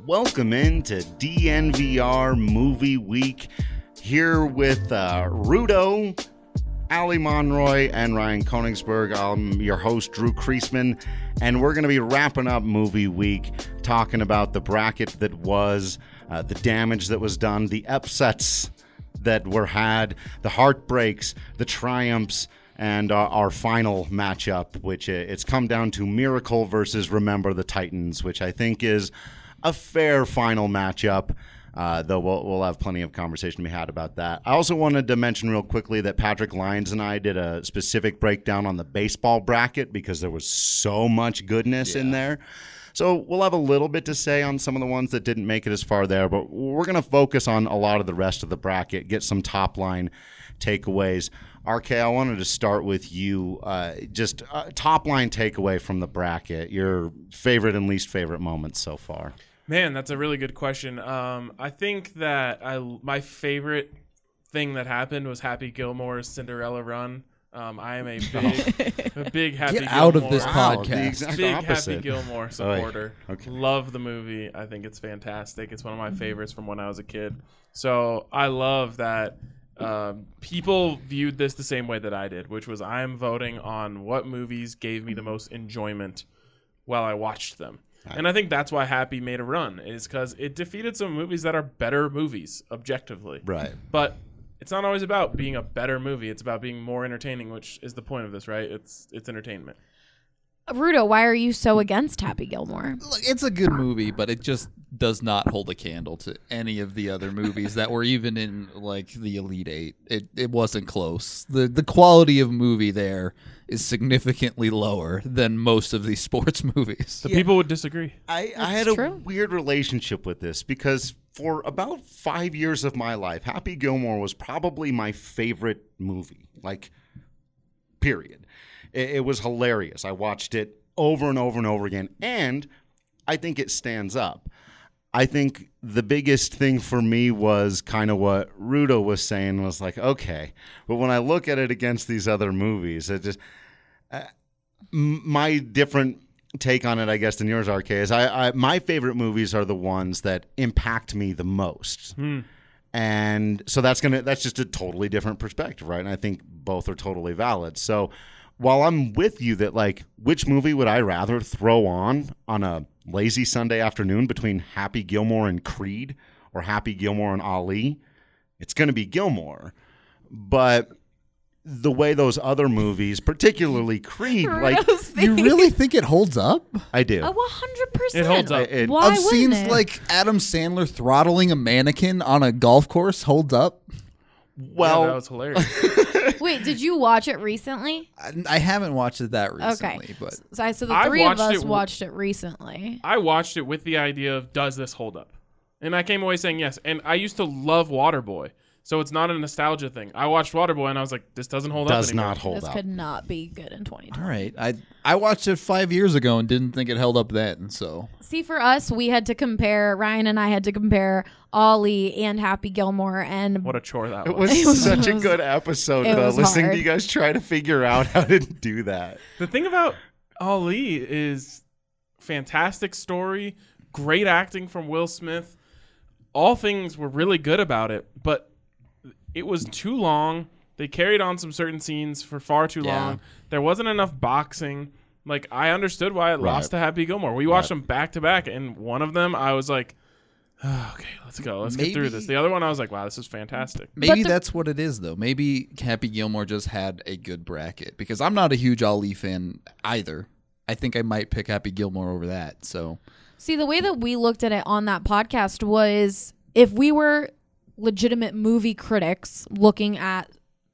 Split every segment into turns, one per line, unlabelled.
Welcome into DNVR Movie Week. Here with Rudo, Ali Monroy, and Ryan Koenigsberg. I'm your host, Drew Kreisman, and we're going to be wrapping up Movie Week, talking about the bracket that was, the damage that was done, the upsets that were had, the heartbreaks, the triumphs, and our final matchup, which it's come down to Miracle versus Remember the Titans, which I think is a fair final matchup, though we'll have plenty of conversation to be had about that. I also wanted to mention real quickly that Patrick Lyons and I did a specific breakdown on the baseball bracket because there was so much goodness in there. So we'll have a little bit to say on some of the ones that didn't make it as far there, but we're going to focus on a lot of the rest of the bracket, get some top-line takeaways. RK, I wanted to start with you. Just top-line takeaway from the bracket, your favorite and least favorite moments so far.
Man, that's a really good question. I think that my favorite thing that happened was Happy Gilmore's Cinderella run. I am a big Happy Gilmore.
Get out of this podcast.
Big Happy Gilmore supporter.
Okay.
Love the movie. I think it's fantastic. It's one of my favorites from when I was a kid. So I love that people viewed this the same way that I did, which was I'm voting on what movies gave me the most enjoyment while I watched them. Right. And I think that's why Happy made a run, is because it defeated some movies that are better movies, objectively.
Right.
But it's not always about being a better movie. It's about being more entertaining, which is the point of this, right? It's entertainment.
Rudo, why are you so against Happy Gilmore?
Look, it's a good movie, but it just does not hold a candle to any of the other movies that were even in like the Elite Eight. It wasn't close. The quality of movie there is significantly lower than most of these sports movies.
The people would disagree.
I had a weird relationship with this because for about 5 years of my life, Happy Gilmore was probably my favorite movie, like, period. It was hilarious. I watched it over and over and over again, and I think it stands up. I think the biggest thing for me was kind of what Rudo was saying was like, okay, but when I look at it against these other movies, it just my different take on it, I guess, than yours, RK, is my favorite movies are the ones that impact me the most. And so that's just a totally different perspective, right? And I think both are totally valid. So while I'm with you that, like, which movie would I rather throw on a lazy Sunday afternoon between Happy Gilmore and Creed or Happy Gilmore and Ali, it's going to be Gilmore. But the way those other movies, particularly Creed, like,
you really think it holds up?
I do.
100%.
It holds up.
Why
of scenes
it?
like Adam Sandler throttling a mannequin on a golf course holds up?
Well,
that was hilarious.
Wait, did you watch it recently?
I haven't watched it that recently.
Okay.
But
So the three of us watched it recently.
I watched it with the idea of, does this hold up? And I came away saying yes. And I used to love Waterboy. So it's not a nostalgia thing. I watched Waterboy and I was like, this doesn't hold up anymore.
Does not hold
This
up.
could not be good in 2020.
all right. I watched it 5 years ago and didn't think it held up then. So
See, for us, we had to compare, Ryan and I had to compare Ollie and Happy Gilmore. And
What a chore that
It
was.
was such a good episode,
it
though,
was
listening
hard.
to you guys try to figure out how to do that.
The thing about Ali is fantastic story, great acting from Will Smith. All things were really good about it, but it was too long. They carried on some certain scenes for far too long. There wasn't enough boxing. Like, I understood why it lost to Happy Gilmore. We watched them back to back, and one of them I was like, oh, okay, let's go. Let's get through this. The other one I was like, wow, this is fantastic.
maybe that's what it is, though. Maybe Happy Gilmore just had a good bracket, because I'm not a huge Ali fan either. I think I might pick Happy Gilmore over that. So,
see, the way that we looked at it on that podcast was if we were legitimate movie critics looking at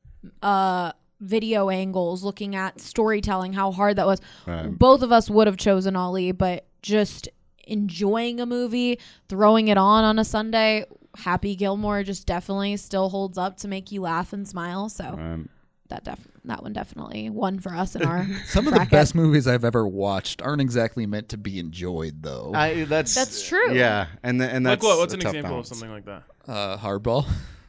video angles, looking at storytelling, how hard that was, both of us would have chosen Ali, but just enjoying a movie, throwing it on a Sunday, Happy Gilmore just definitely still holds up to make you laugh and smile. So that one definitely won for us in our
some of
bracket.
the best movies I've ever watched aren't exactly meant to be enjoyed, though.
That's true.
Yeah, and that's
Like what? What's an
a tough
example
balance.
of something like that?
Hardball.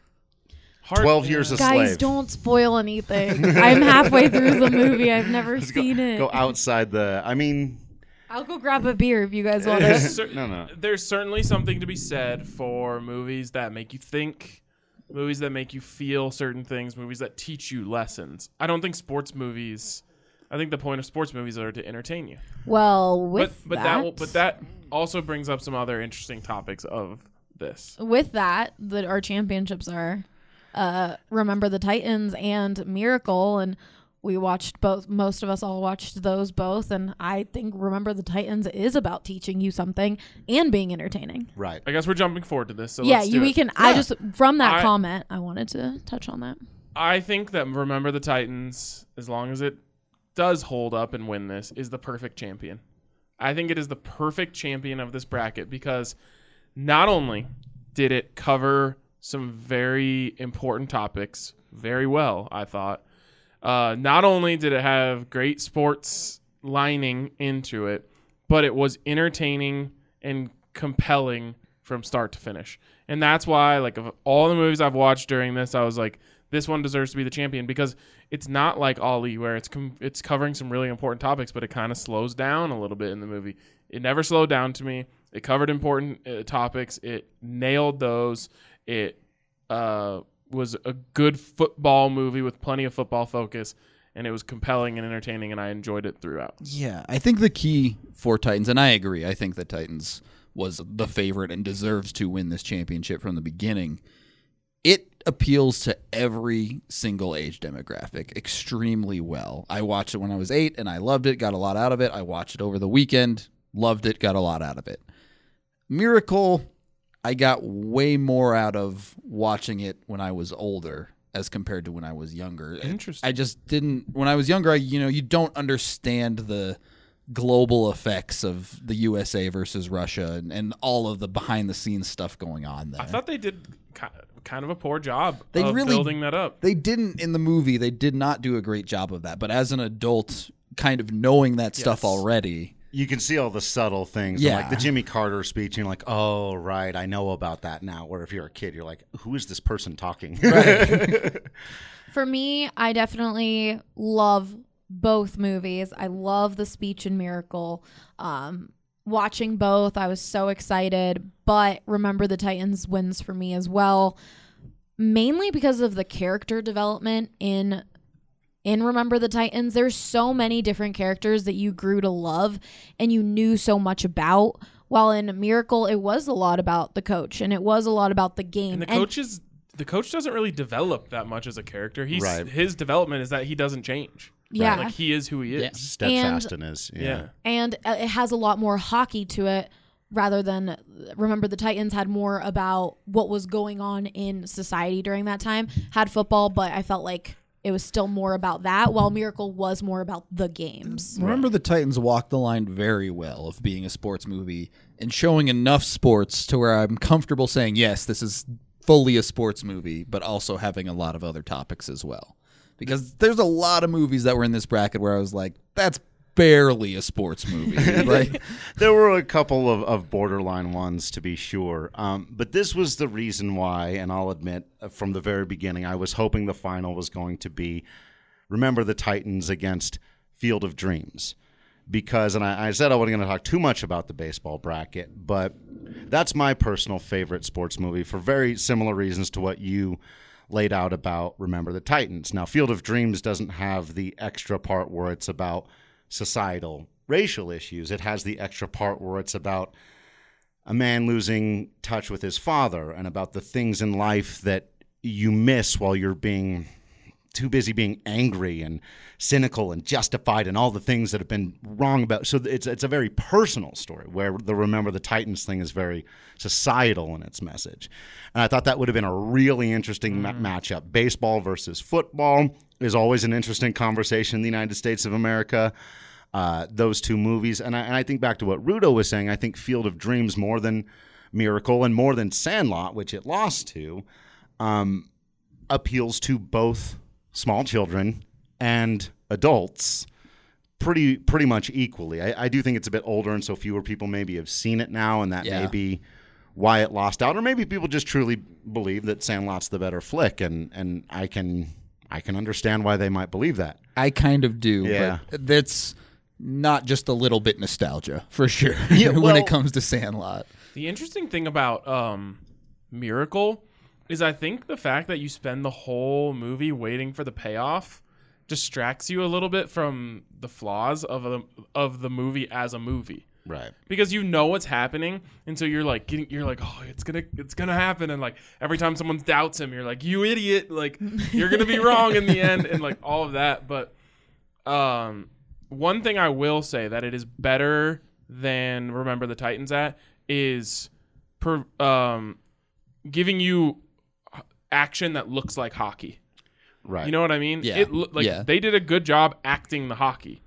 12 Years a
Guys,
Slave.
don't spoil anything. I'm halfway through the movie. I've never seen it.
Go outside the. I mean,
I'll go grab a beer if you guys want to.
No.
There's certainly something to be said for movies that make you think, movies that make you feel certain things, movies that teach you lessons. I don't think sports movies. I think the point of sports movies are to entertain you.
Well, with
but that also brings up some other interesting topics of this.
With that, our championships are Remember the Titans and Miracle, and we watched both. Most of us all watched those both, and I think Remember the Titans is about teaching you something and being entertaining.
Right.
I guess we're jumping forward to this. So
yeah,
let's do
we
it.
can. Yeah. I just from that comment, I wanted to touch on that.
I think that Remember the Titans, as long as it does hold up and win this, is the perfect champion. I think it is the perfect champion of this bracket because not only did it cover some very important topics very well, I thought. Not only did it have great sports lining into it, but it was entertaining and compelling from start to finish. And that's why, like, of all the movies I've watched during this, I was like, this one deserves to be the champion because it's not like Ali where it's covering some really important topics, but it kind of slows down a little bit in the movie. It never slowed down to me. It covered important topics. It nailed those. It was a good football movie with plenty of football focus, and it was compelling and entertaining, and I enjoyed it throughout.
Yeah, I think the key for Titans, and I agree, I think that Titans was the favorite and deserves to win this championship from the beginning. It appeals to every single age demographic extremely well. I watched it when I was 8, and I loved it, got a lot out of it. I watched it over the weekend, loved it, got a lot out of it. Miracle, I got way more out of watching it when I was older as compared to when I was younger.
Interesting.
I just didn't. When I was younger, you don't understand the global effects of the USA versus Russia and all of the behind the scenes stuff going on there.
I thought they did kind of a poor job
They
of
really
building that up.
They didn't in the movie. They did not do a great job of that. But as an adult, kind of knowing that stuff already.
You can see all the subtle things.
Yeah.
Like the Jimmy Carter speech, and you're like, oh, right, I know about that now. Where if you're a kid, you're like, who is this person talking?
Right.
For me, I definitely love both movies. I love the speech in Miracle. Watching both, I was so excited. But Remember the Titans wins for me as well. Mainly because of the character development in Remember the Titans. There's so many different characters that you grew to love and you knew so much about. While in Miracle, it was a lot about the coach and it was a lot about the game.
And the coach doesn't really develop that much as a character. His development is that he doesn't change.
Yeah.
Like he is who he is.
Yeah.
Steadfast in his. Yeah.
And it has a lot more hockey to it rather than Remember the Titans had more about what was going on in society during that time. Had football, but I felt like it was still more about that, while Miracle was more about the games.
Remember the Titans walked the line very well of being a sports movie and showing enough sports to where I'm comfortable saying, yes, this is fully a sports movie, but also having a lot of other topics as well. Because there's a lot of movies that were in this bracket where I was like, that's barely a sports movie. Like,
there were a couple of borderline ones, to be sure. But this was the reason why, and I'll admit from the very beginning, I was hoping the final was going to be Remember the Titans against Field of Dreams. Because, and I said I wasn't going to talk too much about the baseball bracket, but that's my personal favorite sports movie for very similar reasons to what you laid out about Remember the Titans. Now, Field of Dreams doesn't have the extra part where it's about societal racial issues. It has the extra part where it's about a man losing touch with his father and about the things in life that you miss while you're being too busy being angry and cynical and justified and all the things that have been wrong about. So it's a very personal story where the Remember the Titans thing is very societal in its message. And I thought that would have been a really interesting matchup. Baseball versus football is always an interesting conversation in the United States of America. Those two movies. And I think back to what Rudo was saying, I think Field of Dreams more than Miracle and more than Sandlot, which it lost to, appeals to both small children and adults pretty much equally. I do think it's a bit older, and so fewer people maybe have seen it now, and that may be why it lost out. Or maybe people just truly believe that Sandlot's the better flick, and I can understand why they might believe that.
I kind of do.
Yeah.
But not just a little bit nostalgia for sure
Yeah,
when
well-
it comes to Sandlot.
The interesting thing about Miracle is I think the fact that you spend the whole movie waiting for the payoff distracts you a little bit from the flaws of the movie as a movie.
Right.
Because you know what's happening, and so you're like, oh, it's gonna happen, and like every time someone doubts him, you're like, you idiot, like you're gonna be wrong in the end, and like all of that. But one thing I will say that it is better than Remember the Titans at is giving you action that looks like hockey.
Right.
You know what I mean?
Yeah.
They did a good job acting the hockey,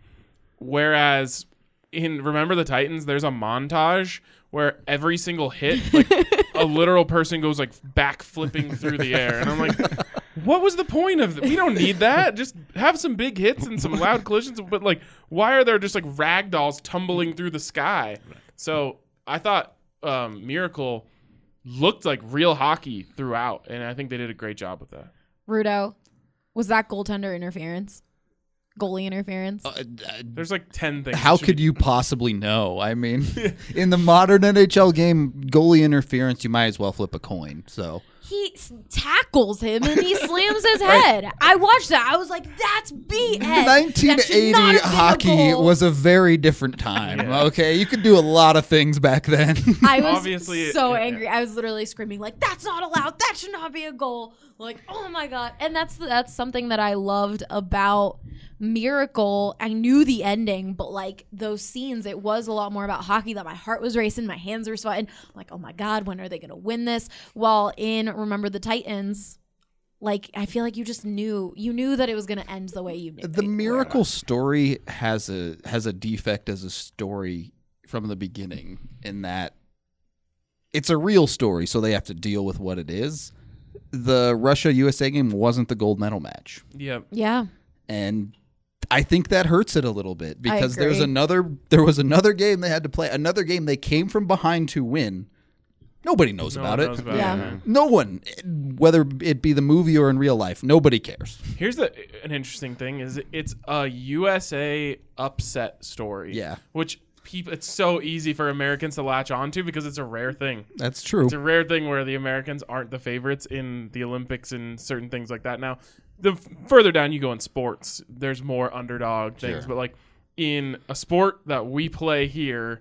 whereas in Remember the Titans, there's a montage where every single hit, like a literal person goes like back flipping through the air, and I'm like, what was the point of that? We don't need that. Just have some big hits and some loud collisions. But like, why are there just like ragdolls tumbling through the sky? So I thought Miracle looked like real hockey throughout, and I think they did a great job with that.
Rudo, was that goaltender interference? Goalie interference?
There's like 10 things.
How could you possibly know? I mean, in the modern NHL game, goalie interference, you might as well flip a coin. So
He tackles him and he slams his head. I watched that. I was like, that's BS. That should
1980
not have been a
hockey
goal.
was a very different time.
Yeah.
Okay, you could do a lot of things back then.
I was
Obviously,
so
yeah.
angry. I was literally screaming like, "That's not allowed. That should not be a goal!" Like, oh my god! And that's something that I loved about Miracle. I knew the ending, but like those scenes, it was a lot more about hockey. That my heart was racing, my hands were sweating. I'm like, oh my god, when are they gonna win this? While in Remember the Titans, like I feel like you just knew that it was gonna end the way you knew.
The Miracle story has a defect as a story from the beginning in that it's a real story, so they have to deal with what it is. The Russia-USA game wasn't the gold medal match.
Yeah.
Yeah.
And I think that hurts it a little bit because there was
agree.
another game they had to play, another game they came from behind to win. Nobody knows
No
about
one
it.
knows about
Yeah.
it, man.
No one, whether it be the movie or in real life, nobody cares.
Here's an interesting thing is it's a USA upset story.
Yeah.
Which it's so easy for Americans to latch onto because it's a rare thing.
That's true.
It's a rare thing where the Americans aren't the favorites in the Olympics and certain things like that. Now, the further down you go in sports, there's more underdog things.
Sure.
But like in a sport that we play here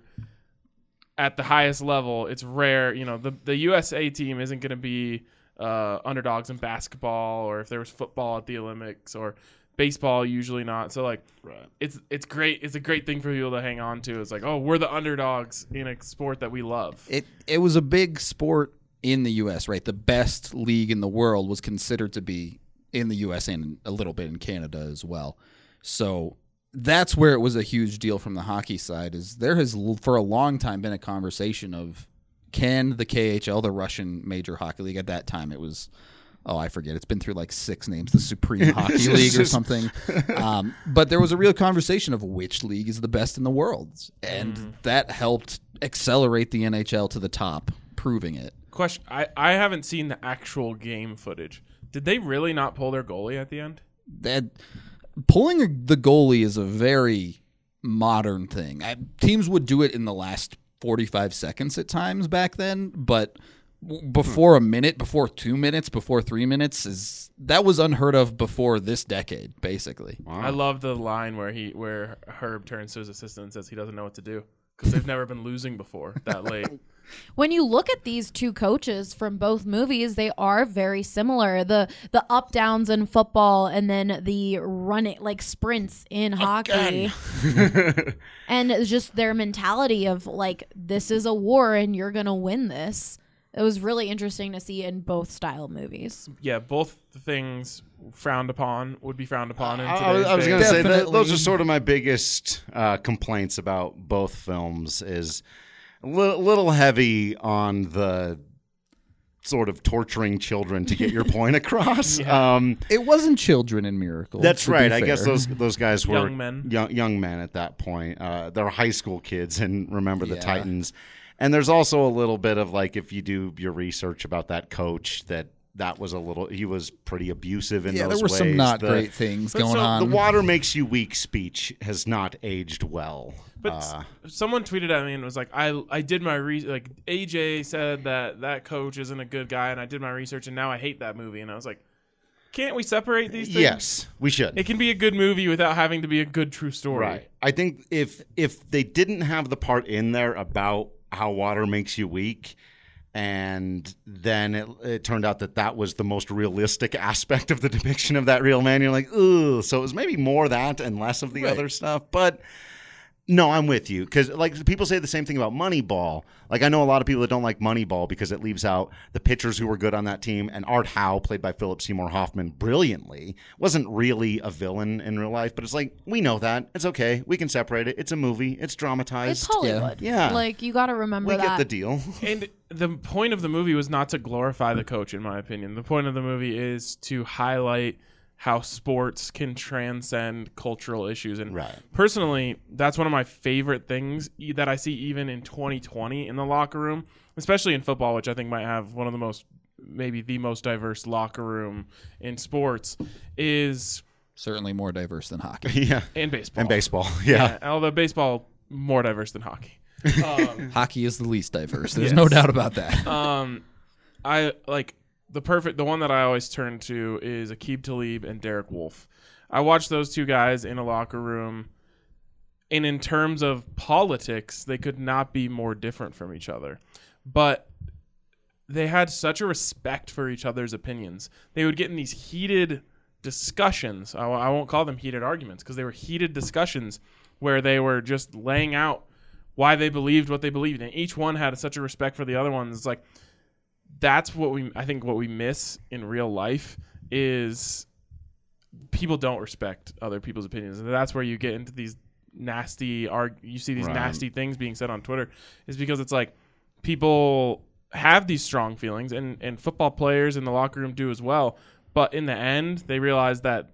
at the highest level, it's rare. You know, the USA team isn't going to be underdogs in basketball, or if there was football at the Olympics, or baseball, usually not. So like, it's great. It's a great thing for people to hang on to. It's like, oh, we're the underdogs in a sport that we love.
It was a big sport in the U.S., right? The best league in the world was considered to be in the U.S. and a little bit in Canada as well. So that's where it was a huge deal from the hockey side. Is there has for a long time been a conversation of can the KHL, the Russian Major Hockey League, at that time it was. Oh, I forget. It's been through like 6 names, the Supreme Hockey League or something. But there was a real conversation of which league is the best in the world. And that helped accelerate the NHL to the top, proving it.
Question: I haven't seen the actual game footage. Did they really not pull their goalie at the end?
That pulling the goalie is a very modern thing. Teams would do it in the last 45 seconds at times back then, but before a minute, before 2 minutes, before 3 minutes that was unheard of before this decade, basically.
Wow.
I love the line where Herb turns to his assistant and says he doesn't know what to do because they've never been losing before that late.
When you look at these two coaches from both movies, they are very similar. The up downs in football and then the running like sprints in hockey. And it's just their mentality of like, this is a war and you're going to win this. It was really interesting to see in both style movies.
Yeah, both things would be frowned upon in today's
I was
day.
going to say that
Definitely.
those are sort of my biggest complaints about both films is a little heavy on the sort of torturing children to get your point across.
It wasn't children in Miracle.
That's
to be
right. I
fair.
guess those guys were
Young men.
young men at that point. They're high school kids and Remember the
Yeah.
Titans. And there's also a little bit of like, if you do your research about that coach, that that was he was pretty abusive in those
there were
ways.
some not great things going on.
The water makes you weak speech has not aged well.
But someone tweeted at me and was like, I did my like AJ said that coach isn't a good guy, and I did my research, and now I hate that movie. And I was like, can't we separate these things?
Yes, we should.
It can be a good movie without having to be a good true story.
Right. I think if they didn't have the part in there about how water makes you weak, and then it turned out that was the most realistic aspect of the depiction of that real man, you're like, ugh. So it was maybe more that and less of the other stuff. But no, I'm with you. Because like people say the same thing about Moneyball. Like I know a lot of people that don't like Moneyball because it leaves out the pitchers who were good on that team. And Art Howe, played by Philip Seymour Hoffman brilliantly, wasn't really a villain in real life. But it's like, we know that. It's okay. We can separate it. It's a movie. It's dramatized.
It's Hollywood.
Yeah.
Like, you got to remember
we
that.
get the deal.
And the point of the movie was not to glorify the coach, in my opinion. The point of the movie is to highlight how sports can transcend cultural issues. And personally, that's one of my favorite things that I see even in 2020 in the locker room, especially in football, which I think might have one of the most, maybe the most diverse locker room in sports, is
certainly more diverse than hockey.
Yeah.
And baseball.
And baseball, yeah.
Although baseball, more diverse than hockey.
Hockey is the least diverse. There's no doubt about that.
I like the one that I always turn to is Aqib Talib and Derek Wolfe. I watched those two guys in a locker room, and in terms of politics, they could not be more different from each other. But they had such a respect for each other's opinions. They would get in these heated discussions. I won't call them heated arguments because they were heated discussions where they were just laying out why they believed what they believed, and each one had such a respect for the other one. It's like that's what we miss in real life is people don't respect other people's opinions, and that's where you get into these nasty nasty things being said on Twitter, is because it's like people have these strong feelings, and football players in the locker room do as well. But in the end, they realize that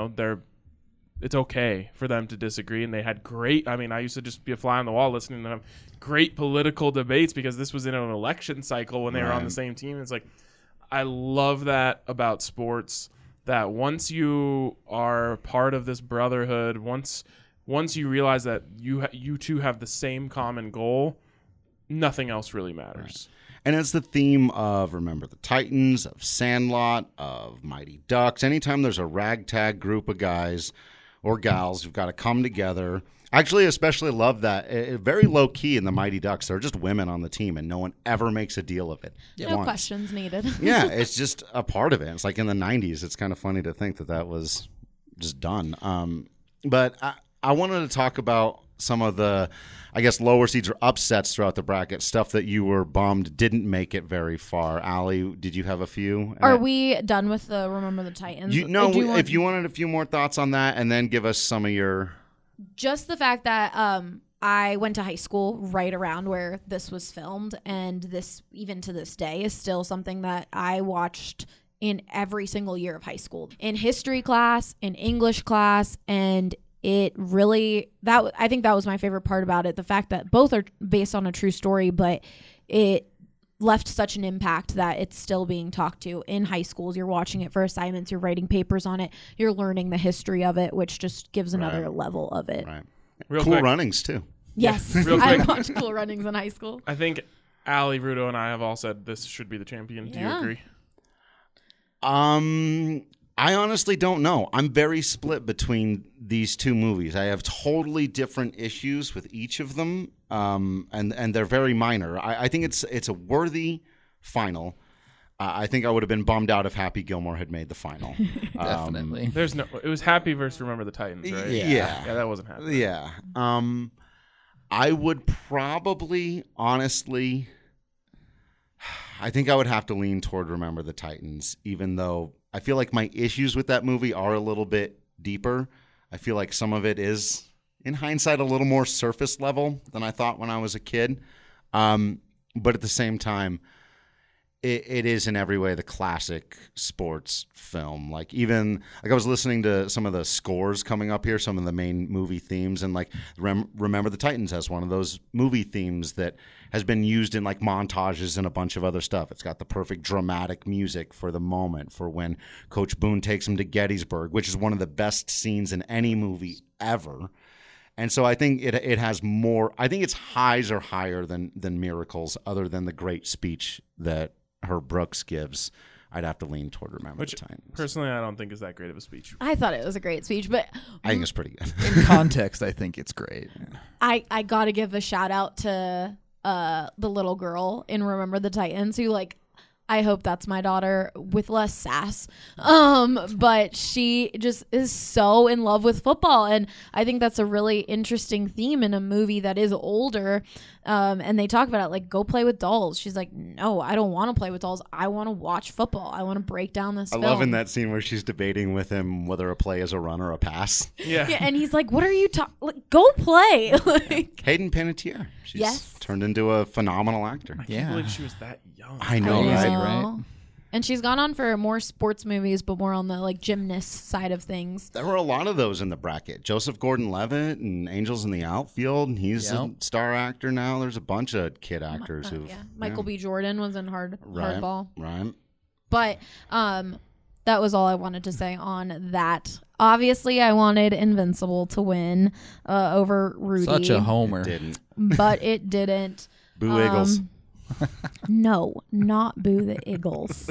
it's okay for them to disagree, and they had great. I mean, I used to just be a fly on the wall listening to them. Great political debates because this was in an election cycle when they were on the same team. It's like I love that about sports. That once you are part of this brotherhood, once you realize that you two have the same common goal, nothing else really matters.
And it's the theme of Remember the Titans, of Sandlot, of Mighty Ducks. Anytime there's a ragtag group of guys or gals who've got to come together. Actually, especially love that. Very low key in the Mighty Ducks. They're just women on the team, and no one ever makes a deal of it.
No questions needed.
Yeah, it's just a part of it. It's like in the 90s. It's kind of funny to think that was just done. But I wanted to talk about some of the, I guess, lower seeds or upsets throughout the bracket, stuff that you were bummed didn't make it very far. Allie, did you have a few?
Are we done with the Remember the Titans?
If you wanted a few more thoughts on that, and then give us some of your...
Just the fact that I went to high school right around where this was filmed, and this, even to this day, is still something that I watched in every single year of high school. In history class, in English class, and it really, I think that was my favorite part about it. The fact that both are based on a true story, but it left such an impact that it's still being talked to in high schools. You're watching it for assignments, you're writing papers on it, you're learning the history of it, which just gives another level of it.
Right.
Real
Cool
quick.
Runnings, too.
Yes.
Real
I
quick.
watched Cool Runnings in high school.
I think Allie, Rudo, and I have all said this should be the champion. Do you agree?
I honestly don't know. I'm very split between these two movies. I have totally different issues with each of them, and they're very minor. I think it's a worthy final. I think I would have been bummed out if Happy Gilmore had made the final.
Definitely.
It was Happy versus Remember the Titans, right?
Yeah.
Yeah, that wasn't Happy.
Yeah. I would probably, honestly, I think I would have to lean toward Remember the Titans, even though I feel like my issues with that movie are a little bit deeper. I feel like some of it is, in hindsight, a little more surface level than I thought when I was a kid. But at the same time, it is in every way the classic sports film. Like even like I was listening to some of the scores coming up here, some of the main movie themes, and like Remember the Titans has one of those movie themes that has been used in like montages and a bunch of other stuff. It's got the perfect dramatic music for the moment, for when Coach Boone takes him to Gettysburg, which is one of the best scenes in any movie ever. And so I think it has more. I think its highs are higher than Miracles, other than the great speech that Herb Brooks gives. I'd have to lean toward Remember the Titans.
Personally, I don't think is that great of a speech.
I thought it was a great speech, but
I think it's pretty good.
In context, I think it's great.
I got to give a shout out to the little girl in Remember the Titans who like, I hope that's my daughter with less sass. But she just is so in love with football. And I think that's a really interesting theme in a movie that is older. And they talk about it like, go play with dolls. She's like, no, I don't want to play with dolls. I want to watch football. I want to break down this film.
I love in that scene where she's debating with him whether a play is a run or a pass.
Yeah.
And he's like, what are you talking? Like, go play. Like,
Hayden Panettiere. She's turned into a phenomenal actor.
I can't believe she was that young.
I know, right?
Right.
And she's gone on for more sports movies, but more on the like gymnast side of things.
There were a lot of those in the bracket. Joseph Gordon-Levitt and Angels in the Outfield. He's a star actor now. There's a bunch of kid actors who.
Michael B. Jordan was in Hardball.
Right.
But that was all I wanted to say on that. Obviously, I wanted Invincible to win over Rudy.
Such a homer.
It didn't.
But it didn't.
Boo Eagles.
No, not Boo the Eagles.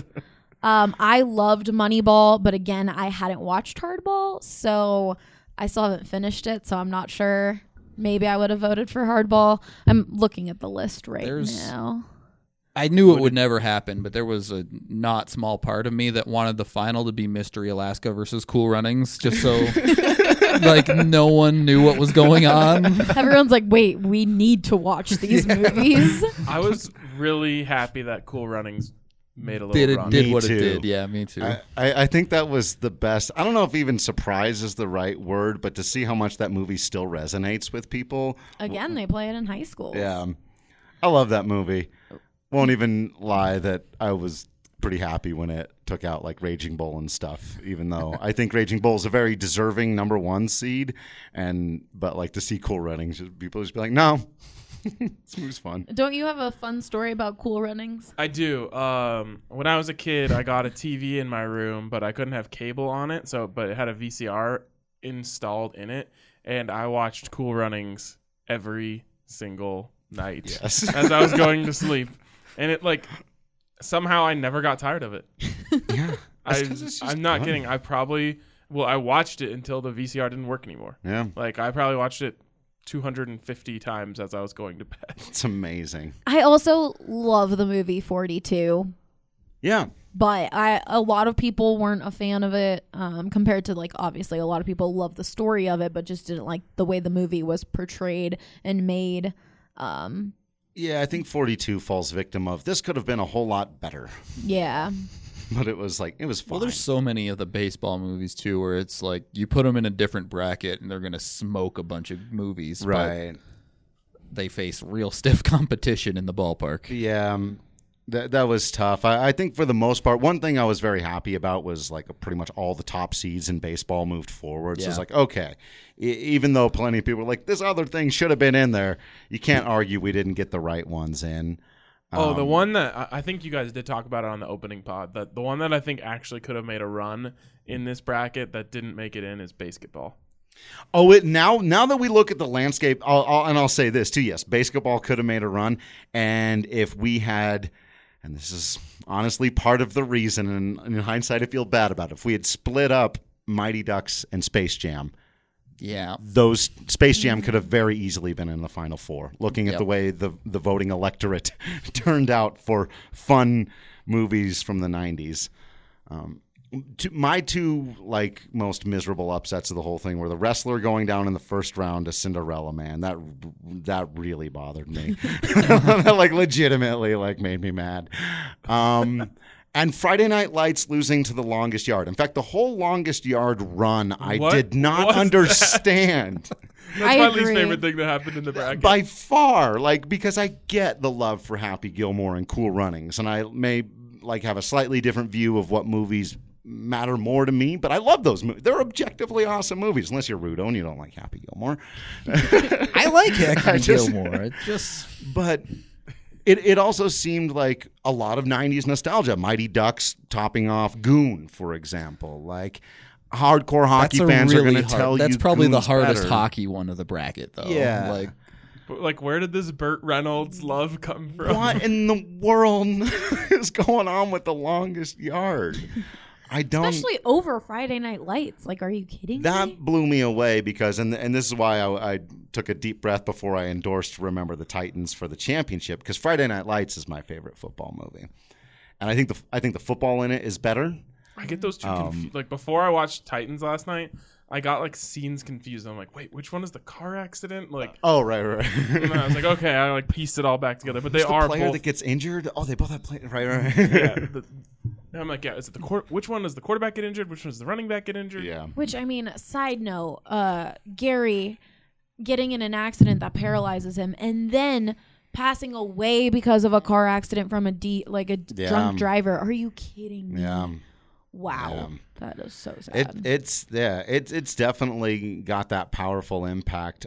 I loved Moneyball, but again, I hadn't watched Hardball, so I still haven't finished it, so I'm not sure. Maybe I would have voted for Hardball. I'm looking at the list now.
I knew it would never happen, but there was a not small part of me that wanted the final to be Mystery Alaska versus Cool Runnings, just so like no one knew what was going on.
Everyone's like, wait, we need to watch these movies.
I was really happy that Cool Runnings made a little run.
Did
Me
what
too.
it did. Yeah, me too.
I think that was the best. I don't know if even surprise is the right word, but to see how much that movie still resonates with people.
Again, they play it in high school.
Yeah. I love that movie. Won't even lie that I was pretty happy when it took out like Raging Bull and stuff, even though I think Raging Bull is a very deserving #1 seed. But like to see Cool Runnings, people just be like, no, this movie's fun.
Don't you have a fun story about Cool Runnings?
I do. When I was a kid, I got a TV in my room, but I couldn't have cable on it. But it had a VCR installed in it, and I watched Cool Runnings every single night
Yes.
as I was going to sleep. And it like somehow I never got tired of it.
Yeah.
I'm not kidding. I watched it until the VCR didn't work anymore.
Yeah.
Like I probably watched it 250 times as I was going to bed.
It's amazing.
I also love the movie 42.
Yeah.
But a lot of people weren't a fan of it compared to, like, obviously a lot of people love the story of it, but just didn't like the way the movie was portrayed and made.
Yeah, I think 42 falls victim of this could have been a whole lot better.
Yeah.
But it was fine.
Well, there's so many of the baseball movies, too, where it's like you put them in a different bracket and they're going to smoke a bunch of movies.
Right.
They face real stiff competition in the ballpark.
Yeah. That was tough. I think for the most part, one thing I was very happy about was like pretty much all the top seeds in baseball moved forward. So it's like, okay, even though plenty of people were like, this other thing should have been in there, you can't argue we didn't get the right ones in.
The one that I think you guys did talk about it on the opening pod, the one that I think actually could have made a run in this bracket that didn't make it in is basketball.
Oh, now that we look at the landscape, I'll say this too. Yes, basketball could have made a run, and if we had. And this is honestly part of the reason, and in hindsight, I feel bad about it. If we had split up Mighty Ducks and Space Jam, those Space Jam could have very easily been in the Final Four. Looking at the way the voting electorate turned out for fun movies from the 90s. My two most miserable upsets of the whole thing were The Wrestler going down in the first round to Cinderella Man. That really bothered me. That legitimately made me mad. And Friday Night Lights losing to The Longest Yard. In fact, the whole Longest Yard run I did not understand.
That's my least favorite thing that happened in the bracket.
By far, because I get the love for Happy Gilmore and Cool Runnings, and I may like have a slightly different view of what movies matter more to me, but I love those movies. They're objectively awesome movies, unless you're Rudo and you don't like Happy Gilmore.
I like Happy Gilmore.
But it also seemed like a lot of 90s nostalgia. Mighty Ducks topping off Goon, for example. Like, hardcore hockey fans are going to tell you
that's probably the
Goon's
hardest
better.
hockey one of the bracket, though.
Yeah.
Like, where did this Burt Reynolds love come from?
What in the world is going on with The Longest Yard? I don't.
Especially over Friday Night Lights. Like, are you kidding me?
That blew me away because, and this is why I took a deep breath before I endorsed Remember the Titans for the championship, because Friday Night Lights is my favorite football movie, and I think the football in it is better.
I get those two confused. Like, before I watched Titans last night, I got like scenes confused. I'm like, wait, which one is the car accident? Like,
Oh, right.
and then I was like, okay, I like pieced it all back together. But they are
the player
both.
that gets injured. Oh, they both have played. Right.
Yeah, I'm like, yeah. Is it which one does the quarterback get injured? Which one does the running back get injured?
Yeah.
Which, I mean, side note, Gary getting in an accident that paralyzes him and then passing away because of a car accident from a drunk driver. Are you kidding me?
Yeah.
Wow. Yeah. That is so sad.
It's definitely got that powerful impact.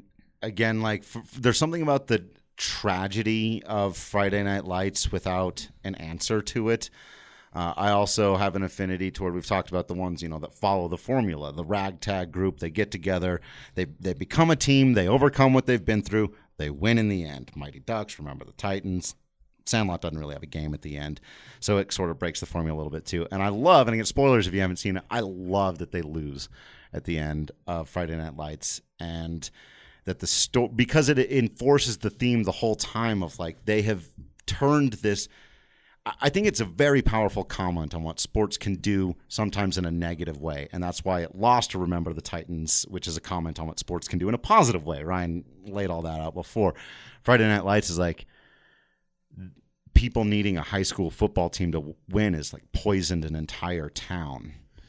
There's something about the tragedy of Friday Night Lights without an answer to it. I also have an affinity toward, we've talked about the ones, that follow the formula, the ragtag group. They get together, they become a team, they overcome what they've been through, they win in the end. Mighty Ducks, Remember the Titans. Sandlot doesn't really have a game at the end, so it sort of breaks the formula a little bit too. And I love, and I get spoilers if you haven't seen it, I love that they lose at the end of Friday Night Lights, and that the story, because it enforces the theme the whole time of like they have turned this. I think it's a very powerful comment on what sports can do sometimes in a negative way, and that's why it lost to Remember the Titans, which is a comment on what sports can do in a positive way. Ryan laid all that out before. Friday Night Lights is like, people needing a high school football team to win is like poisoned an entire town,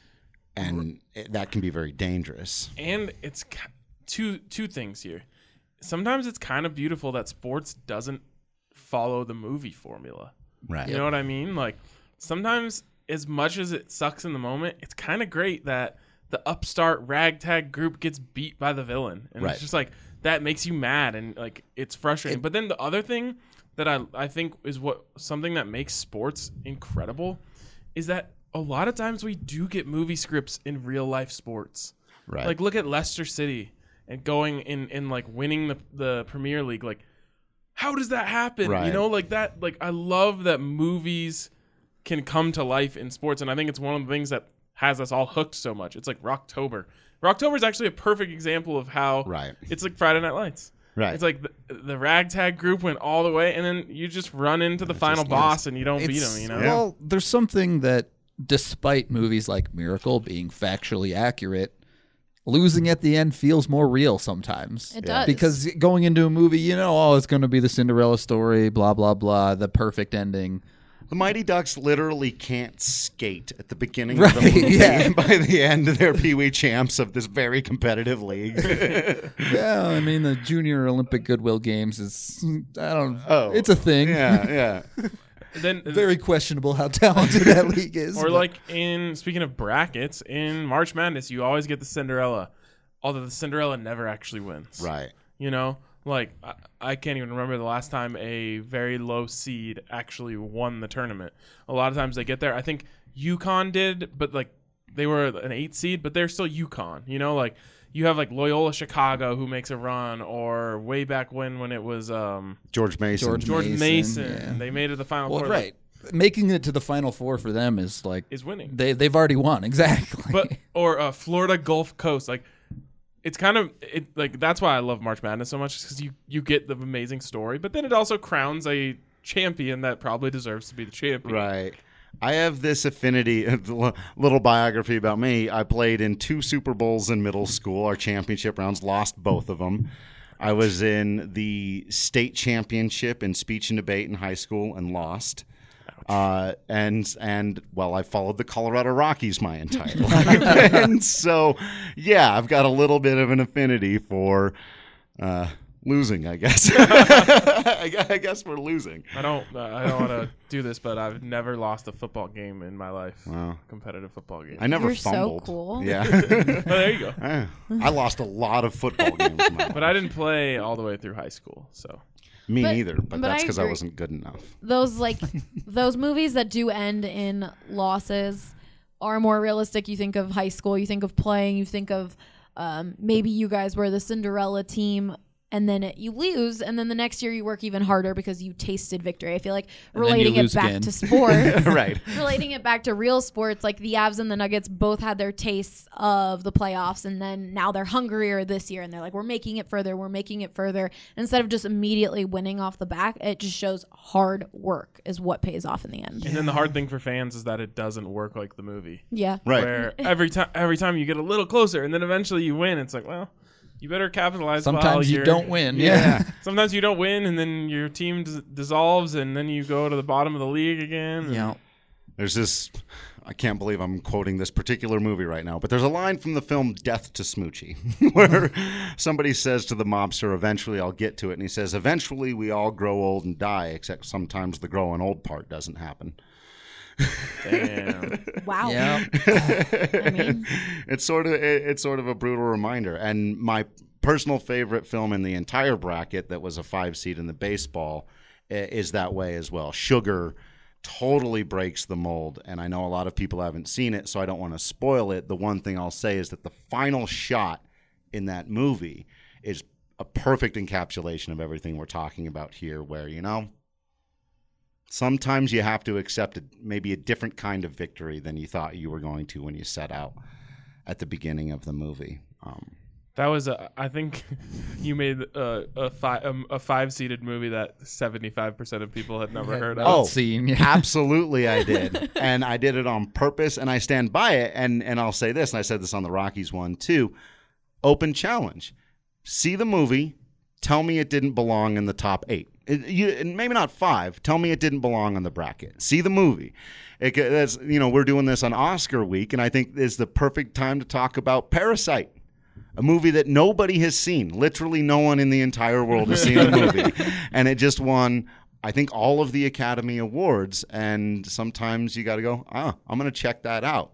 and that can be very dangerous.
And it's two things here. Sometimes it's kind of beautiful that sports doesn't follow the movie formula.
Right.
You know what I mean? Like, sometimes, as much as it sucks in the moment, it's kind of great that the upstart ragtag group gets beat by the villain. And it's just like, that makes you mad and like it's frustrating. But then the other thing that I think is something that makes sports incredible is that a lot of times we do get movie scripts in real life sports.
Right.
Like, look at Leicester City and going in like winning the Premier League. Like, how does that happen?
Right.
You know, like that. Like, I love that movies can come to life in sports, and I think it's one of the things that has us all hooked so much. It's like Rocktober. Rocktober is actually a perfect example of how it's like Friday Night Lights.
Right.
It's like the ragtag group went all the way, and then you just run into the final boss and you don't beat him, you know?
Well, there's something that, despite movies like Miracle being factually accurate, losing at the end feels more real sometimes.
It does.
Because going into a movie, it's going to be the Cinderella story, blah, blah, blah, the perfect ending.
The Mighty Ducks literally can't skate at the beginning of the movie. Yeah. By the end, they're Pee-wee champs of this very competitive league.
Yeah, I mean, the Junior Olympic Goodwill Games is, it's a thing.
Yeah.
Then
very questionable how talented that league is.
Or like speaking of brackets, in March Madness, you always get the Cinderella, although the Cinderella never actually wins.
Right.
You know, like I can't even remember the last time a very low seed actually won the tournament. A lot of times they get there. I think UConn did, but like they were an 8 seed, but they're still UConn. You know, like you have like Loyola Chicago who makes a run, or way back when it was
George Mason.
George Mason.
Yeah.
They made it to the Final
Four.
Four.
Right. Making it to the Final Four for them is
winning.
They've already won, exactly.
Or Florida Gulf Coast, like. It's kind of that's why I love March Madness so much, because you get the amazing story, but then it also crowns a champion that probably deserves to be the champion.
Right. I have this affinity, a little biography about me. I played in 2 Super Bowls in middle school, our championship rounds, lost both of them. I was in the state championship in speech and debate in high school and lost. And I followed the Colorado Rockies my entire life. And so, yeah, I've got a little bit of an affinity for, Losing, I guess. I guess we're losing.
I don't want to do this, but I've never lost a football game in my life.
Wow.
Competitive football game.
I never
You're so
fumbled.
cool.
Yeah.
Well, there you go.
I lost a lot of football games in my life.
But I didn't play all the way through high school, so.
Me
But-
neither, but
but
that's
I
because I
agree.
wasn't good enough.
Those those movies that do end in losses are more realistic. You think of high school, you think of playing, you think of maybe you guys were the Cinderella team and then you lose, and then the next year you work even harder because you tasted victory. I feel like
And then you
relating it
lose
back
again.
to sports,
Right.
relating it back to real sports, like the Avs and the Nuggets both had their tastes of the playoffs, and then now they're hungrier this year, and they're like, we're making it further, we're making it further. Instead of just immediately winning off the back, it just shows hard work is what pays off in the end.
And then the hard thing for fans is that it doesn't work like the movie.
Yeah.
Right.
Where every time you get a little closer, and then eventually you win. It's like, well, you better capitalize. while
Sometimes you
you're-
don't win.
Yeah.
Sometimes you don't win, and then your team dissolves, and then you go to the bottom of the league again.
Yeah.
There's this, I can't believe I'm quoting this particular movie right now, but there's a line from the film Death to Smoochie where somebody says to the mobster, eventually I'll get to it. And he says, eventually we all grow old and die, except sometimes the growing old part doesn't happen.
Damn.
Wow.
Yeah.
I mean,
It's sort of a brutal reminder. And my personal favorite film in the entire bracket that was a 5 seed in the baseball is that way as well. Sugar totally breaks the mold, and I know a lot of people haven't seen it, so I don't want to spoil it. The one thing I'll say is that the final shot in that movie is a perfect encapsulation of everything we're talking about here, where, sometimes you have to accept maybe a different kind of victory than you thought you were going to when you set out at the beginning of the movie.
That was I think you made a 5-seeded movie that 75% of people had never heard of.
Oh,
Scene. Yeah.
absolutely I did. And I did it on purpose, and I stand by it. And I'll say this, and I said this on the Rockies one too, open challenge. See the movie, tell me it didn't belong in the top 8. Maybe not 5. Tell me it didn't belong on the bracket. See the movie. We're doing this on Oscar week, and I think it's the perfect time to talk about Parasite, a movie that nobody has seen. Literally no one in the entire world has seen the movie. And it just won, I think, all of the Academy Awards. And sometimes you got to go, I'm going to check that out.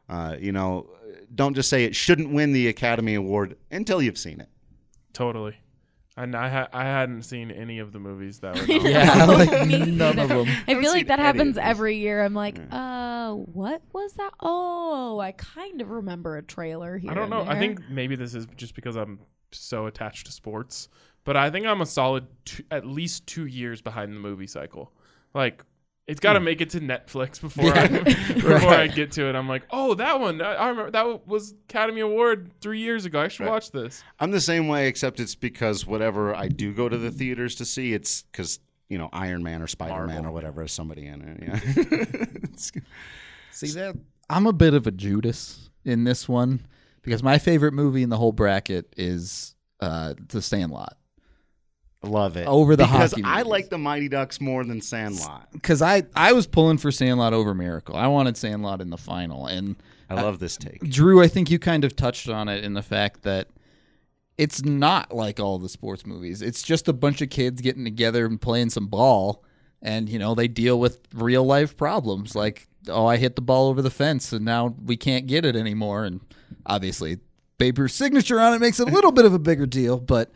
Don't just say it shouldn't win the Academy Award until you've seen it.
Totally. And I hadn't seen any of the movies that were
Yeah, like
Me
none of
neither.
them.
I feel like
seen
that
any of
happens
these.
every year. I'm like, what was that? Oh, I kind of remember a trailer here.
I don't
and
know. I
there.
think maybe this is just because I'm so attached to sports, but I think I'm a solid at least 2 years behind the movie cycle. Like, it's got to make it to Netflix before I get to it. I'm like, oh, that one. I remember that was Academy Award 3 years ago. I should watch this.
I'm the same way, except it's because whatever I do go to the theaters to see, it's because, Iron Man or Spider-Man
Marvel.
or whatever is somebody in it. Yeah.
See that? I'm a bit of a Judas in this one because my favorite movie in the whole bracket is The Sandlot.
Love it.
Over the
because
hockey
I
movies.
like the Mighty Ducks more than Sandlot.
Because I was pulling for Sandlot over Miracle. I wanted Sandlot in the final. And
I love this take.
Drew, I think you kind of touched on it in the fact that it's not like all the sports movies. It's just a bunch of kids getting together and playing some ball. And, they deal with real life problems like, oh, I hit the ball over the fence and now we can't get it anymore. And obviously, Babe Ruth's signature on it makes it a little bit of a bigger deal. But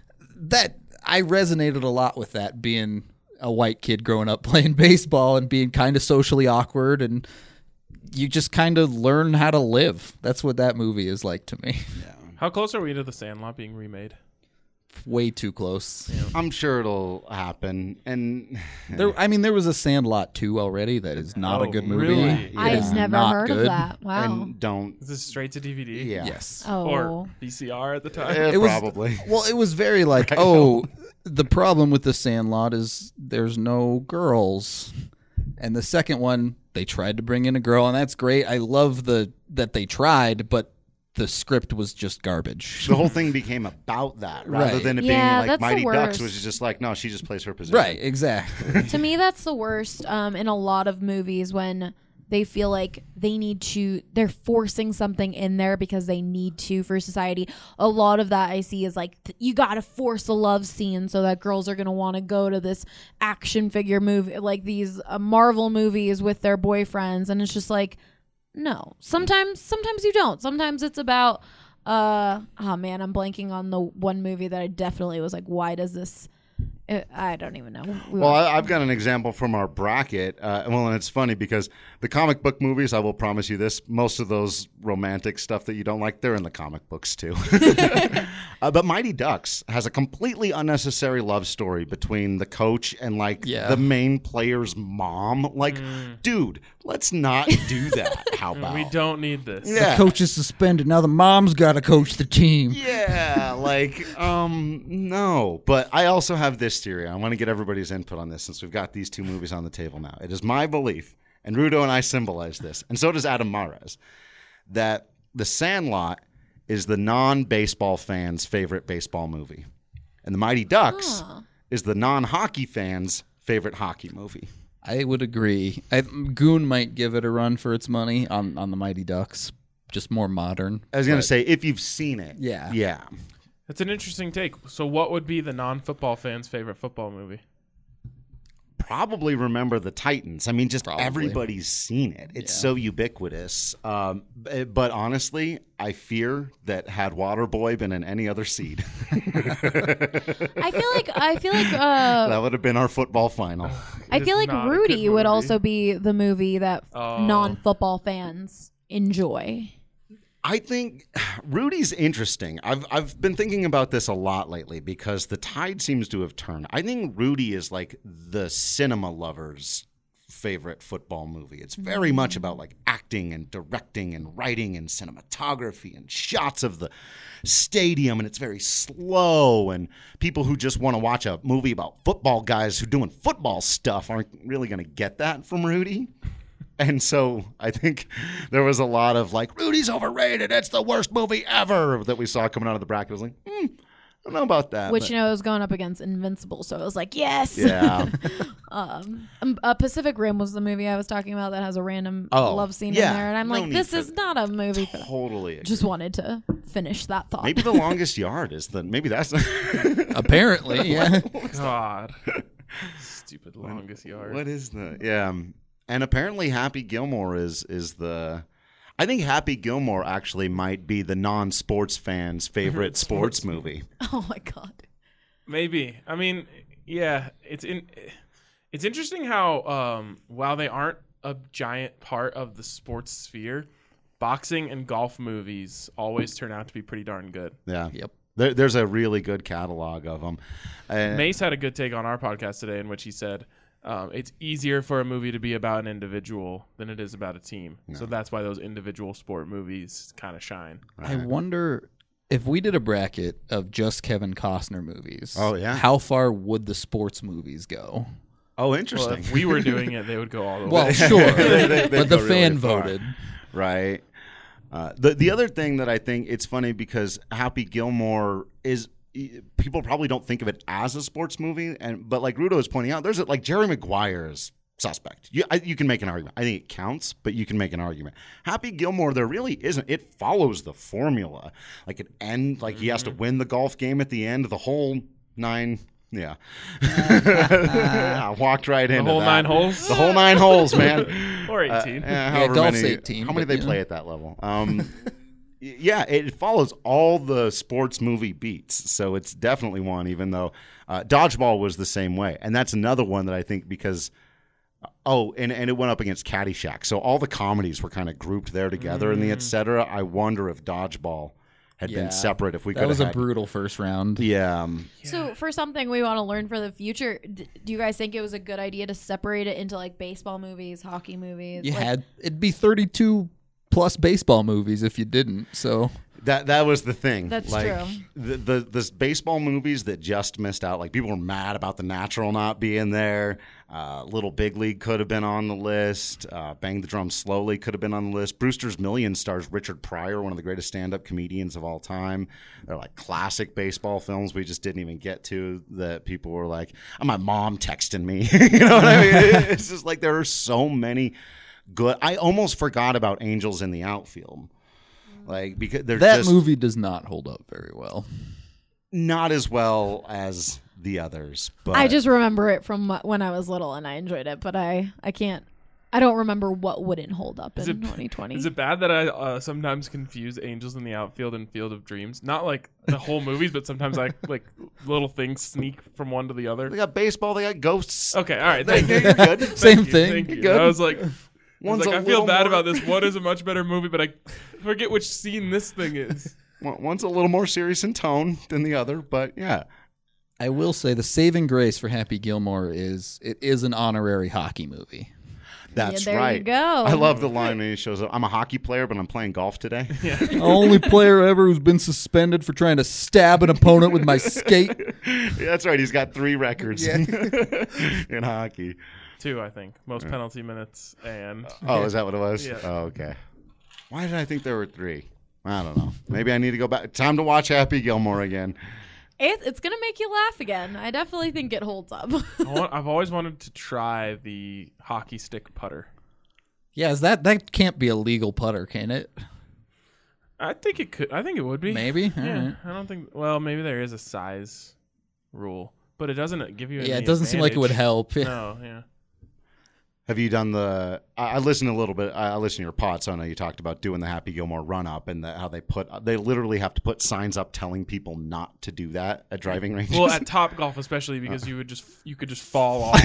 I resonated a lot with that, being a white kid growing up playing baseball and being kind of socially awkward, and you just kind of learn how to live. That's what that movie is like to me.
How close are we to The Sandlot being remade?
Way too close.
I'm sure it'll happen. And
There was a Sandlot 2 already that is not a
Oh,
good movie.
really?
I've
Yeah,
never
not
heard
good.
of that. Wow.
and don't.
Is this straight to DVD?
Yeah.
Yes.
Oh.
Or VCR at the time?
Eh,
It was-
probably.
Well, it was very like, the problem with the Sandlot is there's no girls. And the second one, they tried to bring in a girl, and that's great. I love that they tried, but the script was just garbage.
The whole thing became about that rather
Right.
than it
Yeah,
being like
that's the
Mighty Ducks,
worst.
which is just like, no, she just plays her position.
Right, exactly.
To me, that's the worst in a lot of movies when they feel like they're forcing something in there because they need to for society. A lot of that I see is like, you got to force a love scene so that girls are going to want to go to this action figure movie, like these Marvel movies with their boyfriends. And it's just like, no, sometimes you don't. Sometimes it's about, oh man, I'm blanking on the one movie that I definitely was like, why does this, I don't even know.
Well, I've got an example from our bracket. And it's funny because the comic book movies, I will promise you this, most of those romantic stuff that you don't like, they're in the comic books too. But Mighty Ducks has a completely unnecessary love story between the coach and like the main player's mom. Like, dude, let's not do that. How about?
We don't need this.
Yeah.
The coach is suspended. Now the mom's got to coach the team.
Yeah, like, no. But I also have this theory. I want to get everybody's input on this since we've got these two movies on the table now. It is my belief, and Rudo and I symbolize this, and so does Adam Mares, that The Sandlot is the non-baseball fan's favorite baseball movie. And The Mighty Ducks is the non-hockey fan's favorite hockey movie.
I would agree. Goon might give it a run for its money on the Mighty Ducks, just more modern.
I was going to say, if you've seen it.
Yeah.
Yeah.
That's an interesting take. So what would be the non-football fan's favorite football movie?
Probably Remember the Titans. I mean, just
Probably.
everybody's seen it. It's so ubiquitous. But honestly, I fear that had Waterboy been in any other seed,
I feel like
that would have been our football final.
I feel like
not a good
Rudy would
movie.
also be the movie that non-football fans enjoy.
I think Rudy's interesting. I've been thinking about this a lot lately because the tide seems to have turned. I think Rudy is like the cinema lover's favorite football movie. It's very much about like acting and directing and writing and cinematography and shots of the stadium, and it's very slow, and people who just want to watch a movie about football guys who doing football stuff aren't really going to get that from Rudy. And so I think there was a lot of like, Rudy's overrated. It's the worst movie ever that we saw coming out of the bracket. I was like, I don't know about that.
Which, it was going up against Invincible. So it was like, yes.
Yeah.
Pacific Rim was the movie I was talking about that has a random
Oh,
love scene
yeah.
in there. And I'm
No
like,
need
this
for
is not a movie for that.
Totally. Agree.
Just wanted to finish that thought.
Maybe The Longest Yard is maybe that's
Apparently, yeah.
God. Stupid Longest Yard.
What is yeah. And apparently Happy Gilmore is the I think Happy Gilmore actually might be the non-sports fan's favorite sports movie.
Oh my God.
Maybe. I mean, yeah, it's interesting how while they aren't a giant part of the sports sphere, boxing and golf movies always turn out to be pretty darn good.
Yeah.
Yep.
There's a really good catalog of them.
Mace had a good take on our podcast today in which he said it's easier for a movie to be about an individual than it is about a team. No. So that's why those individual sport movies kind of shine.
I wonder if we did a bracket of just Kevin Costner movies.
Oh, yeah.
How far would the sports movies go?
Oh, interesting.
Well, if we were doing it, they would go all the way.
Well, sure.
They'd
but the
go
fan
really far.
voted.
Right. The other thing that I think it's funny because Happy Gilmore is people probably don't think of it as a sports movie, but like Rudo is pointing out, there's like Jerry Maguire is suspect. You can make an argument. I think it counts, but you can make an argument. Happy Gilmore, there really isn't. It follows the formula. Like it end, like he has to win the golf game at the end. The whole 9. Yeah. I walked right into
the whole
that.
9 holes.
The whole 9 holes, man.
Or 18.
Golf's 18.
How many they play at that level? Yeah, it follows all the sports movie beats, so it's definitely one. Even though Dodgeball was the same way, and that's another one that I think because and it went up against Caddyshack, so all the comedies were kind of grouped there together in the etc. I wonder if Dodgeball had been separate. If we could,
that was a brutal first round.
Yeah.
So for something we want to learn for the future, do you guys think it was a good idea to separate it into like baseball movies, hockey movies?
It'd be 32 plus baseball movies if you didn't. So
that was the thing.
That's
like,
true.
The baseball movies that just missed out, like people were mad about The Natural not being there. Little Big League could have been on the list. Bang the Drum Slowly could have been on the list. Brewster's Millions stars Richard Pryor, one of the greatest stand-up comedians of all time. They're like classic baseball films we just didn't even get to that people were like, oh, my mom texting me. You know what I mean? It's just like there are so many good. I almost forgot about Angels in the Outfield. Like, because they're
That
just
movie does not hold up very well.
not as well as the others. But
I just remember it from when I was little and I enjoyed it, but I don't remember what wouldn't hold up in 2020.
Is it bad that I sometimes confuse Angels in the Outfield and Field of Dreams? Not like the whole movies, but sometimes I like little things sneak from one to the other.
they got baseball, they got ghosts.
Okay, all right.
You're
Thank you.
good.
Same
Thank you,
thing.
thank you.
Good.
I was like,
One's a
I feel
little
bad
more-
about this. One is a much better movie, but I forget which scene this thing is.
One's a little more serious in tone than the other, but yeah.
I will say the saving grace for Happy Gilmore is it is an honorary hockey movie.
That's
there you
right.
go.
I love the line when he shows up. I'm a hockey player, but I'm playing golf today.
Only player ever who's been suspended for trying to stab an opponent with my skate.
Yeah, that's right. He's got 3 records in hockey.
2, I think. Most penalty minutes and
Oh, is that what it was?
Yeah.
Oh, okay. Why did I think there were 3? I don't know. Maybe I need to go back. Time to watch Happy Gilmore again.
It's gonna make you laugh again. I definitely think it holds up.
I've always wanted to try the hockey stick putter.
Yeah, that can't be a legal putter, can it?
I think it could. I think it would be.
Maybe. All
Yeah.
right.
I don't think. Well, maybe there is a size rule, but it doesn't give you.
Yeah,
any
it doesn't seem like it would
advantage.
help.
No. Yeah.
Have you done the? I listened a little bit. I listened to your pod, so I know you talked about doing the Happy Gilmore run up and how they literally have to put signs up telling people not to do that at driving ranges.
Well, at Top Golf especially because you could just fall off.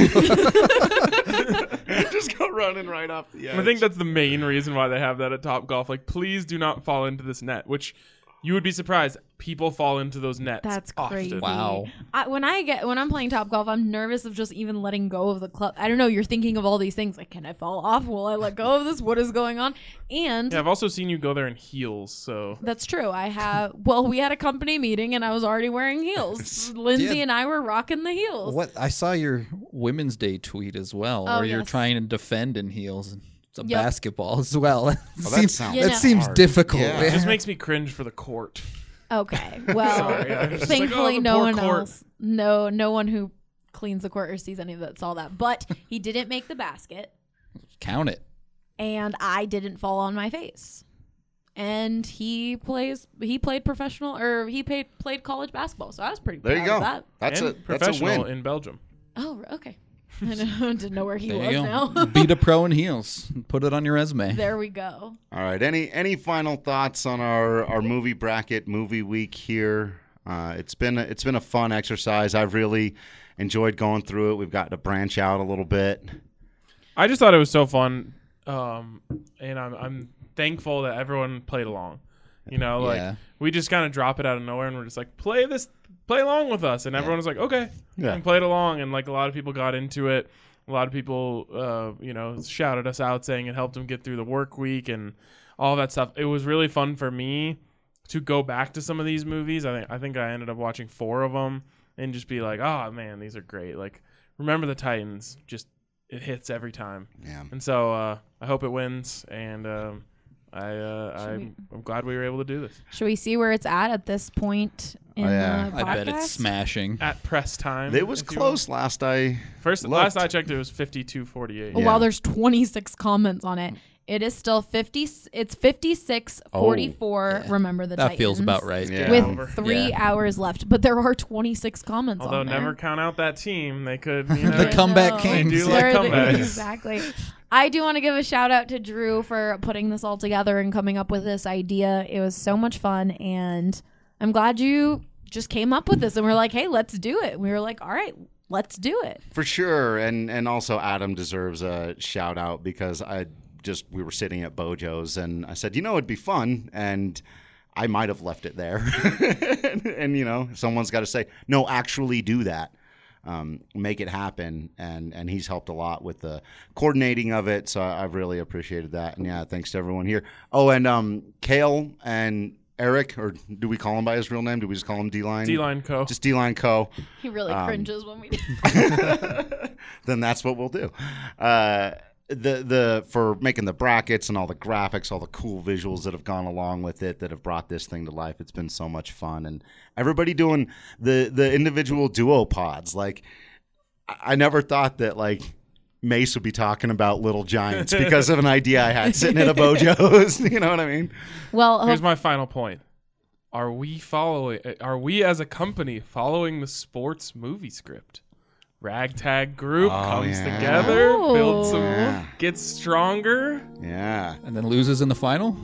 just go running right off the edge.
I think that's the main reason why they have that at Top Golf. Like, please do not fall into this net, which you would be surprised. People fall into those nets.
That's
often.
crazy.
Wow.
When I'm playing Top Golf, I'm nervous of just even letting go of the club. I don't know. You're thinking of all these things like, can I fall off? Will I let go of this? What is going on? And
Yeah, I've also seen you go there in heels, so
that's true. We had a company meeting and I was already wearing heels. Lindsay
Yeah.
and I were rocking the heels.
What I saw your Women's Day tweet as well,
Oh,
where you're
yes.
trying to defend in heels. It's a
Yep.
basketball as well.
that sounds
You know.
seems
hard.
difficult.
Yeah.
it just makes me cringe for the court.
Okay. Well,
Sorry, I was just like,
thankfully
oh, the
no
poor
one
court.
else, no one who cleans the court or sees any of that saw that. But he didn't make the basket.
Count it.
And I didn't fall on my face. And he played professional or he played college basketball, so I was pretty
There
proud
you
of
go.
that.
That's
And
a
professional
win.
in Belgium.
Oh, okay. I didn't know where he
There
was
you
now.
go. Beat a pro in heels. Put it on your resume.
There we go.
All right. Any final thoughts on our movie bracket movie week here? It's been a fun exercise. I've really enjoyed going through it. We've got to branch out a little bit.
I just thought it was so fun, and I'm thankful that everyone played along. You know, like
Yeah.
we just kind of drop it out of nowhere, and we're just like, play along with us, and everyone was like, okay,
Yeah.
and played along, and like a lot of people got into it. A lot of people, shouted us out saying it helped them get through the work week and all that stuff. It was really fun for me to go back to some of these movies. I think I ended up watching 4 of them and just be like, oh man, these are great. Like, Remember the Titans, just it hits every time.
Yeah.
And so I hope it wins, and I'm glad we were able to do this.
Should we see where it's at this point in
yeah.
the
I
podcast?
bet it's smashing.
At press time.
It was
if you
close last I
will.
looked.
Last I checked, it was 52-48.
Oh,
Yeah.
wow, there's 26 comments on it. It is still 50. It's 56-44.
Yeah.
Remember the
That
Titans.
feels about right.
Yeah.
With
Over.
3
Yeah.
hours left, but there are 26 comments
Although
on there.
never count out that team. They could, you know.
The comeback
No.
kings.
They do like
They're the-
comebacks.
Exactly. I do want to give a shout out to Drew for putting this all together and coming up with this idea. It was so much fun, and I'm glad you just came up with this and we're like, hey, let's do it. We were like, all right, let's do it.
For sure, and also Adam deserves a shout out because we were sitting at Bojo's and I said, it'd be fun, and I might have left it there, and someone's got to say, no, actually do that, make it happen, and he's helped a lot with the coordinating of it, so I've really appreciated that, and yeah, thanks to everyone here. Oh, and Kale and Eric, or do we call him by his real name? Do we just call him D-Line?
D-Line Co.
Just D-Line Co.
He really cringes when we do.
Then that's what we'll do. For making the brackets and all the graphics, all the cool visuals that have gone along with it, that have brought this thing to life. It's been so much fun, and everybody doing the individual duo pods. Like, I never thought that Mace would be talking about Little Giants because of an idea I had sitting at a Bojo's. You know what I mean?
Well,
Here's my final point. Are we as a company following the sports movie script? Ragtag group comes together, builds some, gets stronger.
Yeah.
And then loses in the final?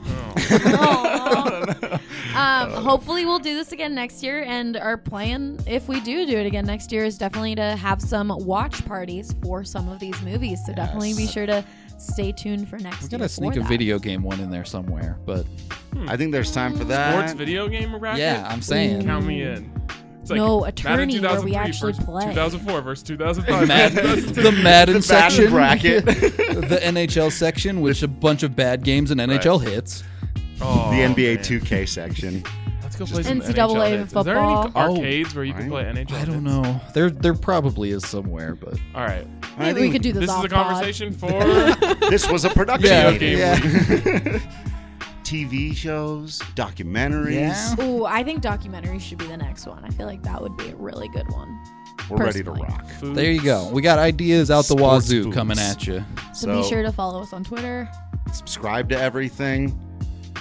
hopefully we'll do this again next year, and our plan, if we do it again next year, is definitely to have some watch parties for some of these movies. So definitely be sure to stay tuned for next year.
We gotta sneak a video game one in there somewhere, but
I think there's time for that.
Sports video game racket?
yeah, I'm saying.
Count me in. It's like
No, a
Madden
tourney where we
2003
actually
versus
play.
2004 versus 2005.
The Madden section,
bracket.
the NHL section, which a bunch of bad games and NHL hits.
Oh,
The NBA
man.
2K section.
Let's go play some
NCAA
NHL hits. Is there any
football.
arcades where you can play NHL?
I don't
hits?
know. There probably is somewhere, but
All right.
Maybe we could do this
This is
off
a
pod.
conversation for
This was a production
Yeah,
meeting.
game
TV shows, documentaries.
Yeah.
Ooh, I think documentaries should be the next one. I feel like that would be a really good one.
We're ready to
Personally.
rock.
food.
there you go. We got ideas out the
Sports
wazoo
foods.
coming at you.
So be sure to follow us on Twitter.
subscribe to everything,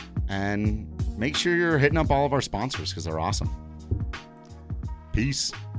and make sure you're hitting up all of our sponsors because they're awesome. Peace.